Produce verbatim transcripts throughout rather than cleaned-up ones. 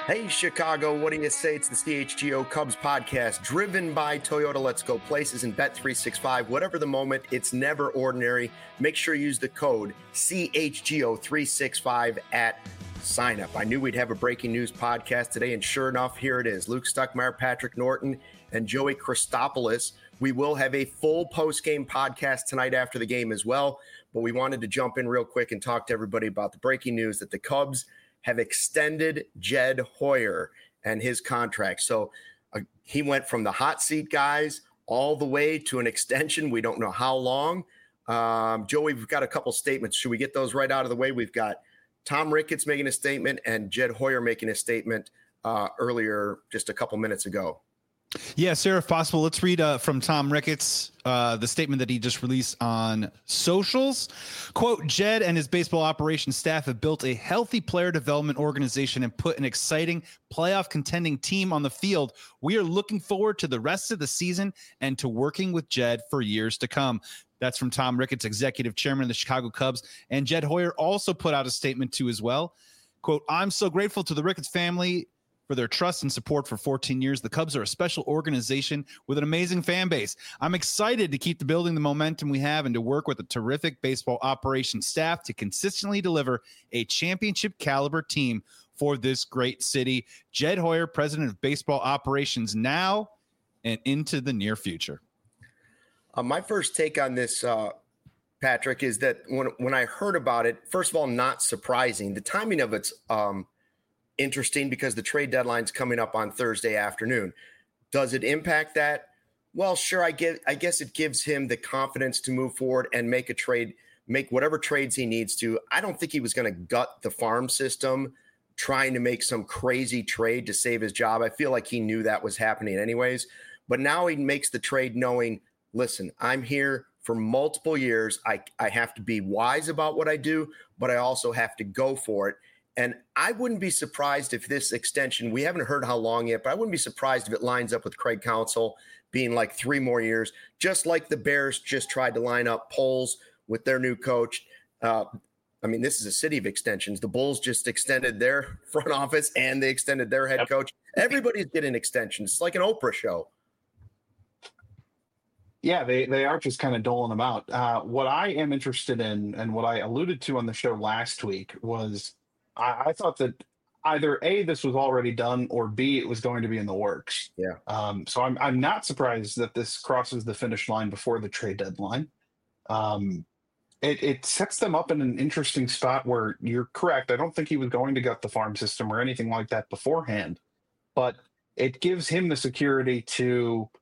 Hey, Chicago, what do you say? It's the C H G O Cubs podcast, driven by Toyota. Let's go places and Bet three sixty-five. Whatever the moment, it's never ordinary. Make sure you use the code C H G O three sixty-five at sign up. I knew we'd have a breaking news podcast today, and sure enough, here it is. Luke Stuckmeyer, Patrick Norton, and Joey Christopoulos. We will have a full post-game podcast tonight after the game as well, but we wanted to jump in real quick and talk to everybody about the breaking news that the Cubs have extended Jed Hoyer and his contract. So uh, he went from the hot seat guys all the way to an extension. We don't know how long. Um, Joey, we've got a couple statements. Should we get those right out of the way? We've got Tom Ricketts making a statement and Jed Hoyer making a statement uh, earlier, just a couple minutes ago. Yeah, sir, if possible, let's read uh, from Tom Ricketts, uh, the statement that he just released on socials. Quote, Jed and his baseball operations staff have built a healthy player development organization and put an exciting playoff contending team on the field. We are looking forward to the rest of the season and to working with Jed for years to come. That's from Tom Ricketts, executive chairman of the Chicago Cubs. And Jed Hoyer also put out a statement too as well. Quote, I'm so grateful to the Ricketts family for their trust and support for fourteen years. The Cubs are a special organization with an amazing fan base. I'm excited to keep the building the momentum we have and to work with a terrific baseball operations staff to consistently deliver a championship caliber team for this great city. Jed Hoyer, president of baseball operations now and into the near future. Uh, my first take on this, uh, Patrick, is that when, when I heard about it, first of all, not surprising. The timing of it's um, interesting because the trade deadline's coming up on Thursday afternoon. Does it impact that? Well, sure. I get, I guess it gives him the confidence to move forward and make a trade, make whatever trades he needs to. I don't think he was going to gut the farm system trying to make some crazy trade to save his job. I feel like he knew that was happening anyways, but now he makes the trade knowing, listen, I'm here for multiple years. I, I have to be wise about what I do, but I also have to go for it. And I wouldn't be surprised if this extension, we haven't heard how long yet, but I wouldn't be surprised if it lines up with Craig Counsell being like three more years, just like the Bears just tried to line up Poles with their new coach. Uh, I mean, this is a city of extensions. The Bulls just extended their front office and they extended their head coach. Everybody's getting extensions. It's like an Oprah show. Yeah, they, they are just kind of doling them out. Uh, what I am interested in and what I alluded to on the show last week was I, I thought that either A, this was already done, or B, it was going to be in the works. Yeah. Um, so I'm I'm not surprised that this crosses the finish line before the trade deadline. Um, it, it sets them up in an interesting spot where you're correct. I don't think he was going to gut the farm system or anything like that beforehand, but it gives him the security to,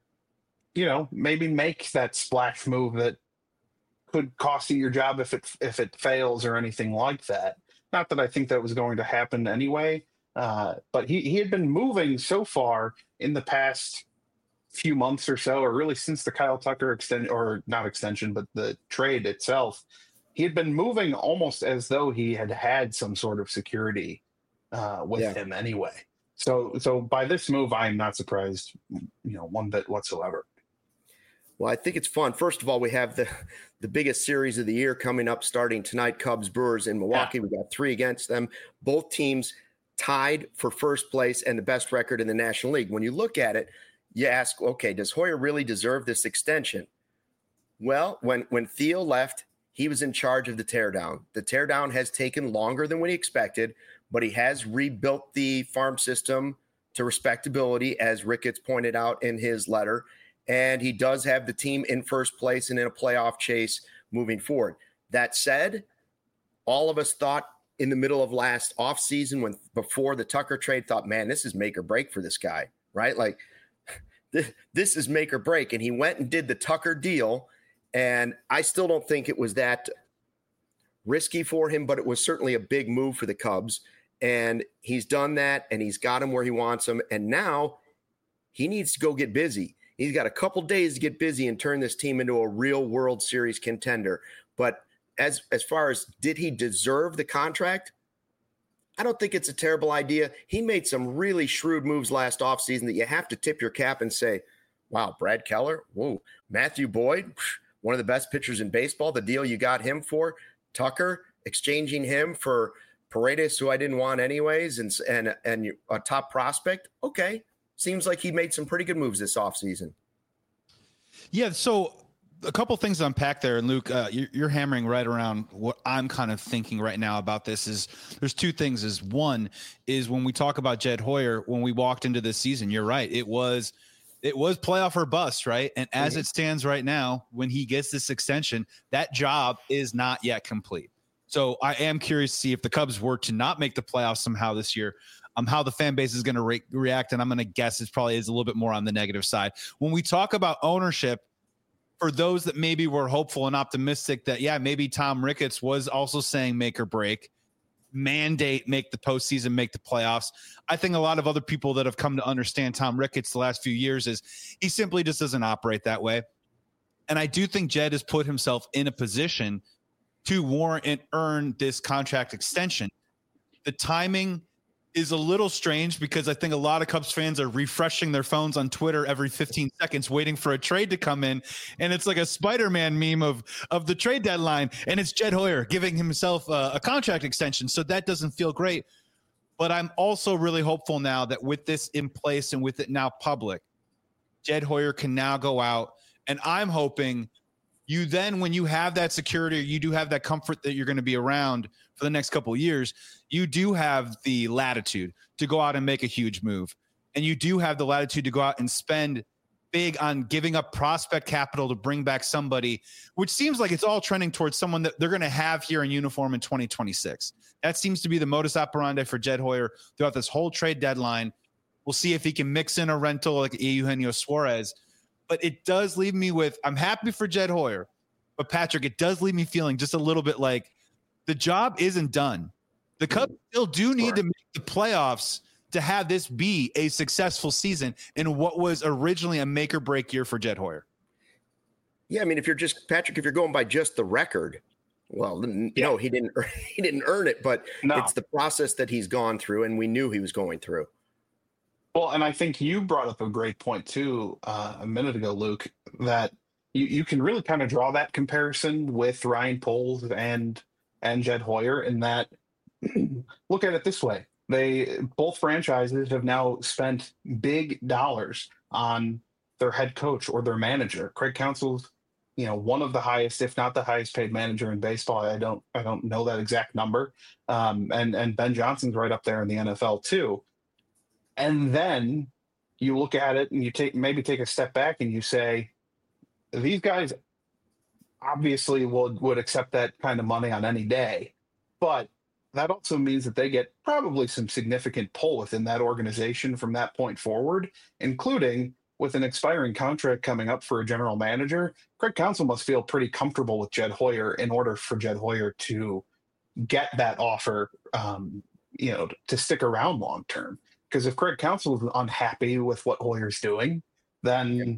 you know, maybe make that splash move that could cost you your job if it if it fails or anything like that. Not that I think that was going to happen anyway, uh, but he, he had been moving so far in the past few months or so, or really since the Kyle Tucker extend or not extension, but the trade itself, he had been moving almost as though he had had some sort of security uh, with yeah. him anyway. So, so by this move, I am not surprised, you know, one bit whatsoever. Well, I think it's fun. First of all, we have the, the biggest series of the year coming up starting tonight, Cubs Brewers in Milwaukee. Yeah. We got three against them. Both teams tied for first place and the best record in the National League. When you look at it, you ask, okay, does Hoyer really deserve this extension? Well, when, when Theo left, he was in charge of the teardown. The teardown has taken longer than we expected, but he has rebuilt the farm system to respectability, as Ricketts pointed out in his letter. And he does have the team in first place and in a playoff chase moving forward. That said, all of us thought in the middle of last offseason, when before the Tucker trade, thought, man, this is make or break for this guy, right? Like, this, this is make or break. And he went and did the Tucker deal. And I still don't think it was that risky for him, but it was certainly a big move for the Cubs. And he's done that, and he's got him where he wants him. And now he needs to go get busy. He's got a couple days to get busy and turn this team into a real World Series contender. But as as far as did he deserve the contract, I don't think it's a terrible idea. He made some really shrewd moves last offseason that you have to tip your cap and say, wow, Brad Keller, whoa, Matthew Boyd, one of the best pitchers in baseball, the deal you got him for, Tucker, exchanging him for Paredes, who I didn't want anyways, and and and a top prospect. Okay, seems like he made some pretty good moves this offseason. Yeah, so a couple things to unpack there, and Luke, uh, you're, you're hammering right around what I'm kind of thinking right now about this. Is there's two things. Is one is when we talk about Jed Hoyer, when we walked into this season, you're right. It was it was playoff or bust, right? And as mm-hmm. it stands right now, when he gets this extension, that job is not yet complete. So I am curious to see if the Cubs were to not make the playoffs somehow this year, um, how the fan base is going to re- react. And I'm going to guess it probably is a little bit more on the negative side. When we talk about ownership, for those that maybe were hopeful and optimistic that, yeah, maybe Tom Ricketts was also saying make or break, mandate, make the postseason, make the playoffs. I think a lot of other people that have come to understand Tom Ricketts the last few years is he simply just doesn't operate that way. And I do think Jed has put himself in a position to warrant and earn this contract extension. The timing is a little strange because I think a lot of Cubs fans are refreshing their phones on Twitter every fifteen seconds, waiting for a trade to come in. And it's like a Spider-Man meme of, of the trade deadline. And it's Jed Hoyer giving himself a, a contract extension. So that doesn't feel great. But I'm also really hopeful now that with this in place and with it now public, Jed Hoyer can now go out. And I'm hoping you then, when you have that security, you do have that comfort that you're going to be around for the next couple of years, you do have the latitude to go out and make a huge move. And you do have the latitude to go out and spend big on giving up prospect capital to bring back somebody, which seems like it's all trending towards someone that they're going to have here in uniform in twenty twenty-six. That seems to be the modus operandi for Jed Hoyer throughout this whole trade deadline. We'll see if he can mix in a rental like Eugenio Suarez. But it does leave me with, I'm happy for Jed Hoyer, but Patrick, it does leave me feeling just a little bit like the job isn't done. The Cubs still do need sure. to make the playoffs to have this be a successful season in what was originally a make or break year for Jed Hoyer. Yeah, I mean, if you're just Patrick, if you're going by just the record, well, yeah. no, he didn't. He didn't earn it, but no. It's the process that he's gone through, and we knew he was going through. Well, and I think you brought up a great point too uh, a minute ago, Luke, that you, you can really kind of draw that comparison with Ryan Poles and and Jed Hoyer in that, look at it this way. They both franchises have now spent big dollars on their head coach or their manager. Craig Counsell's, you know, one of the highest, if not the highest paid manager in baseball. I don't I don't know that exact number. Um, and, and Ben Johnson's right up there in the N F L too. And then you look at it and you take maybe take a step back and you say, these guys obviously would, would accept that kind of money on any day. But that also means that they get probably some significant pull within that organization from that point forward, including with an expiring contract coming up for a general manager. Craig Counsell must feel pretty comfortable with Jed Hoyer in order for Jed Hoyer to get that offer, um, you know, to stick around long term. Because if Craig Counsell is unhappy with what Hoyer's doing, then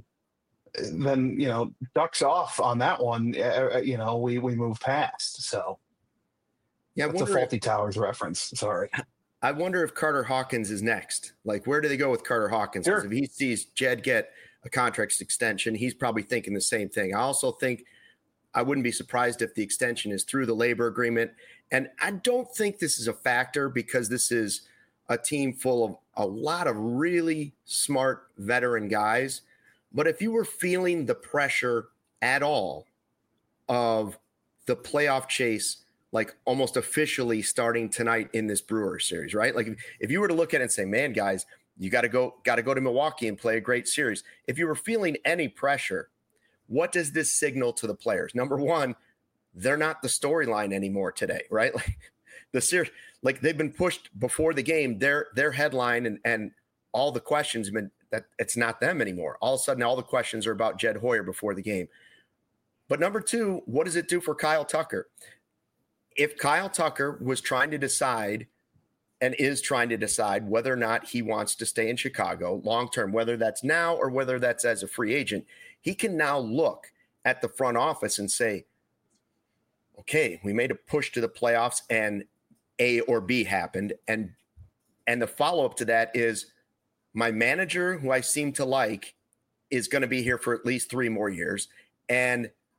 then you know ducks off on that one. Uh, you know we we move past. So yeah, it's a Faulty if, Towers reference. Sorry. I wonder if Carter Hawkins is next. Like, where do they go with Carter Hawkins? Because sure. if he sees Jed get a contract extension, he's probably thinking the same thing. I also think I wouldn't be surprised if the extension is through the labor agreement. And I don't think this is a factor because this is a team full of a lot of really smart veteran guys. But if you were feeling the pressure at all of the playoff chase, like almost officially starting tonight in this Brewers series, right? Like if, if you were to look at it and say, man, guys, you got to go, got to go to Milwaukee and play a great series. If you were feeling any pressure, what does this signal to the players? Number one, they're not the storyline anymore today, right? Like the series, like they've been pushed before the game, their, their headline and, and all the questions have been that it's not them anymore. All of a sudden, all the questions are about Jed Hoyer before the game. But number two, what does it do for Kyle Tucker? If Kyle Tucker was trying to decide and is trying to decide whether or not he wants to stay in Chicago long-term, whether that's now or whether that's as a free agent, he can now look at the front office and say, okay, we made a push to the playoffs and A or B happened. And, and the follow-up to that is my manager, who I seem to like, is going to be here for at least three more years. And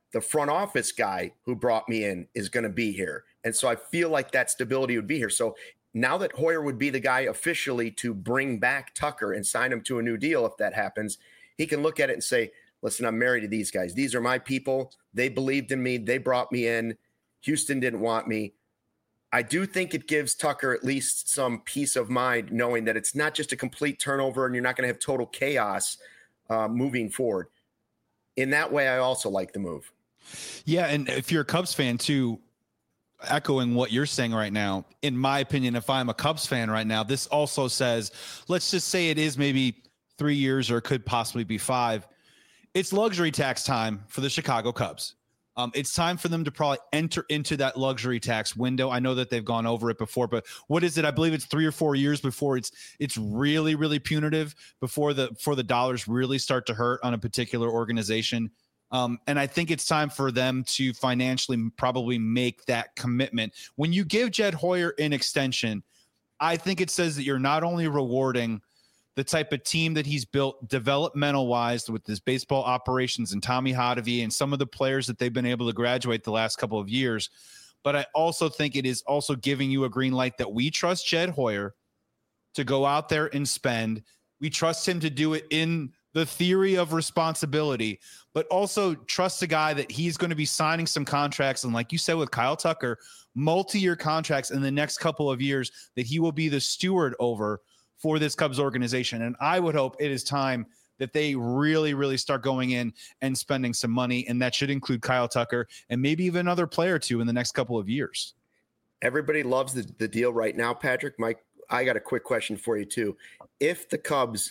the front office guy who brought me in is going to be here. And so I feel like that stability would be here. So now that Hoyer would be the guy officially to bring back Tucker and sign him to a new deal, if that happens, he can look at it and say, listen, I'm married to these guys. These are my people. They believed in me. They brought me in. Houston didn't want me. I do think it gives Tucker at least some peace of mind knowing that it's not just a complete turnover and you're not going to have total chaos uh, moving forward. In that way, I also like the move. Yeah, and if you're a Cubs fan too, echoing what you're saying right now, in my opinion, if I'm a Cubs fan right now, this also says, let's just say it is maybe three years or it could possibly be five. It's luxury tax time for the Chicago Cubs. Um, it's time for them to probably enter into that luxury tax window. I know that they've gone over it before, but what is it? I believe it's three or four years before it's it's really, really punitive, before the before the dollars really start to hurt on a particular organization. Um, and I think it's time for them to financially probably make that commitment. When you give Jed Hoyer an extension, I think it says that you're not only rewarding the type of team that he's built developmental wise with his baseball operations and Tommy Hotovy and some of the players that they've been able to graduate the last couple of years. But I also think it is also giving you a green light that we trust Jed Hoyer to go out there and spend. We trust him to do it in the theory of responsibility, but also trust a guy that he's going to be signing some contracts. And like you said, with Kyle Tucker, multi-year contracts in the next couple of years that he will be the steward over for this Cubs organization. And I would hope it is time that they really, really start going in and spending some money. And that should include Kyle Tucker and maybe even another player or two in the next couple of years. Everybody loves the, the deal right now, Patrick. Mike, I got a quick question for you too. If the Cubs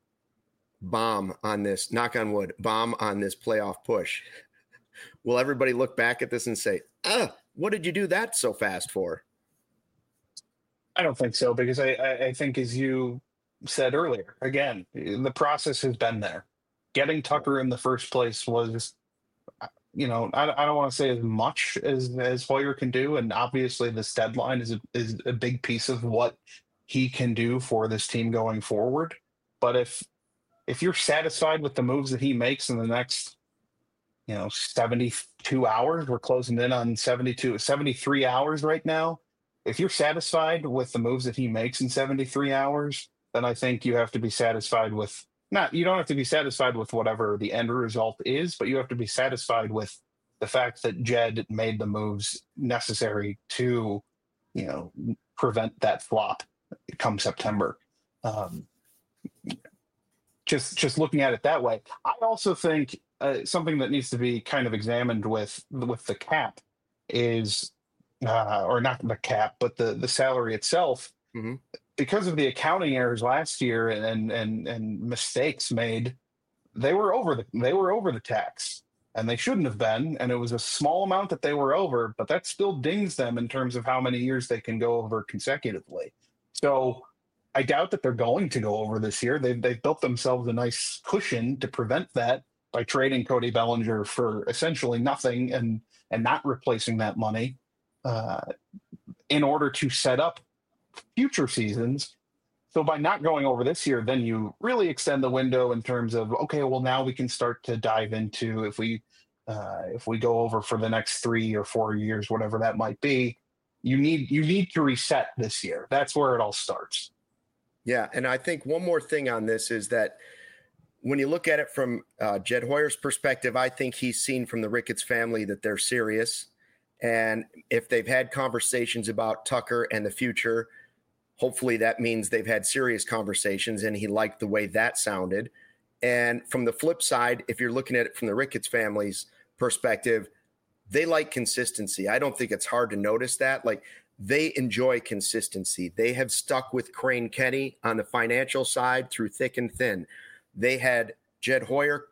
bomb on this, knock on wood, bomb on this playoff push, will everybody look back at this and say, ah, what did you do that so fast for? I don't think so, because I, I, I think, as you said earlier, again, the process has been there. Getting Tucker in the first place was, you know, I, I don't want to say as much as, as Hoyer can do. And obviously this deadline is a, is a big piece of what he can do for this team going forward. But if, if you're satisfied with the moves that he makes in the next, you know, seventy-two hours, we're closing in on seventy-two, seventy-three hours right now. If you're satisfied with the moves that he makes in seventy-three hours, then I think you have to be satisfied with not, you don't have to be satisfied with whatever the end result is, but you have to be satisfied with the fact that Jed made the moves necessary to, you know, prevent that flop come September. Um, just, just looking at it that way. I also think uh, something that needs to be kind of examined with, with the cap is, Uh, or not the cap, but the the salary itself, mm-hmm. because of the accounting errors last year and and and mistakes made, they were over the they were over the tax, and they shouldn't have been. And it was a small amount that they were over, but that still dings them in terms of how many years they can go over consecutively. So I doubt that they're going to go over this year. They've they've built themselves a nice cushion to prevent that by trading Cody Bellinger for essentially nothing and and not replacing that money. Uh, in order to set up future seasons. So by not going over this year, then you really extend the window in terms of, okay, well, now we can start to dive into if we uh, if we go over for the next three or four years, whatever that might be, you need you need to reset this year. That's where it all starts. Yeah, and I think one more thing on this is that when you look at it from uh, Jed Hoyer's perspective, I think he's seen from the Ricketts family that they're serious. And if they've had conversations about Tucker and the future, hopefully that means they've had serious conversations and he liked the way that sounded. And from the flip side, if you're looking at it from the Ricketts family's perspective, they like consistency. I don't think it's hard to notice that. Like, they enjoy consistency. They have stuck with Crane Kenny on the financial side through thick and thin. They had Jed Hoyer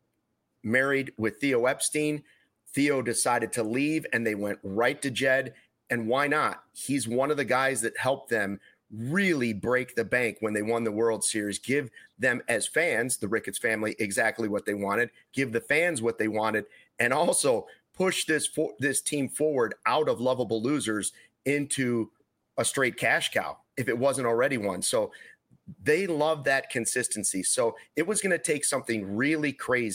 married with Theo Epstein. Theo decided to leave and they went right to Jed. And why not? He's one of the guys that helped them really break the bank when they won the World Series, give them as fans, the Ricketts family, exactly what they wanted, give the fans what they wanted, and also push this for, this team forward out of lovable losers into a straight cash cow, if it wasn't already one. So they love that consistency. So it was going to take something really crazy,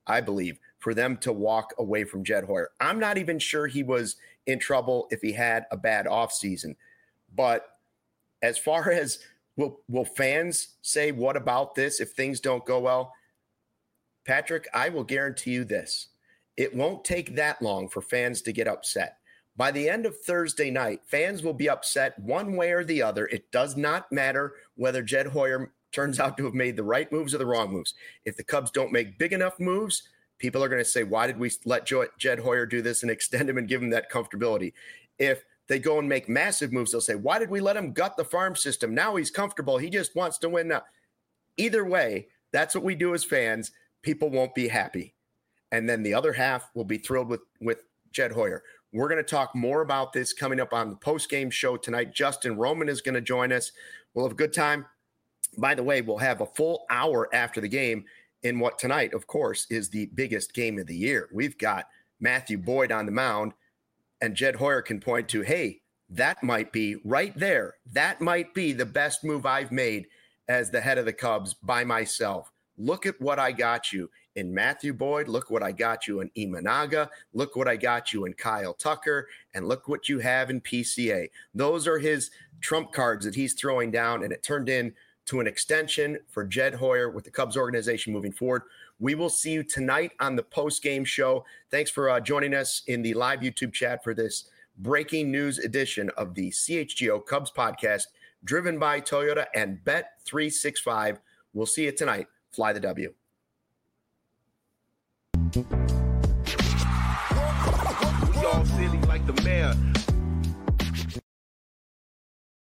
I believe, for them to walk away from Jed Hoyer. I'm not even sure he was in trouble if he had a bad offseason. But as far as will, will fans say, what about this if things don't go well? Patrick, I will guarantee you this. It won't take that long for fans to get upset. By the end of Thursday night, fans will be upset one way or the other. It does not matter whether Jed Hoyer turns out to have made the right moves or the wrong moves. If the Cubs don't make big enough moves, people are going to say, why did we let Jed Hoyer do this and extend him and give him that comfortability? If they go and make massive moves, they'll say, why did we let him gut the farm system? Now he's comfortable. He just wants to win now. Either way, that's what we do as fans. People won't be happy. And then the other half will be thrilled with, with Jed Hoyer. We're going to talk more about this coming up on the post-game show tonight. Justin Roman is going to join us. We'll have a good time. By the way, we'll have a full hour after the game in what tonight, of course, is the biggest game of the year. We've got Matthew Boyd on the mound, and Jed Hoyer can point to, hey, that might be right there. That might be the best move I've made as the head of the Cubs by myself. Look at what I got you in Matthew Boyd. Look what I got you in Imanaga. Look what I got you in Kyle Tucker. And look what you have in P C A. Those are his trump cards that he's throwing down, and it turned in to an extension for Jed Hoyer with the Cubs organization moving forward. We will see you tonight on the post-game show. Thanks for uh, joining us in the live YouTube chat for this breaking news edition of the C H G O Cubs podcast, driven by Toyota and Bet three sixty-five. We'll see you tonight. Fly the W.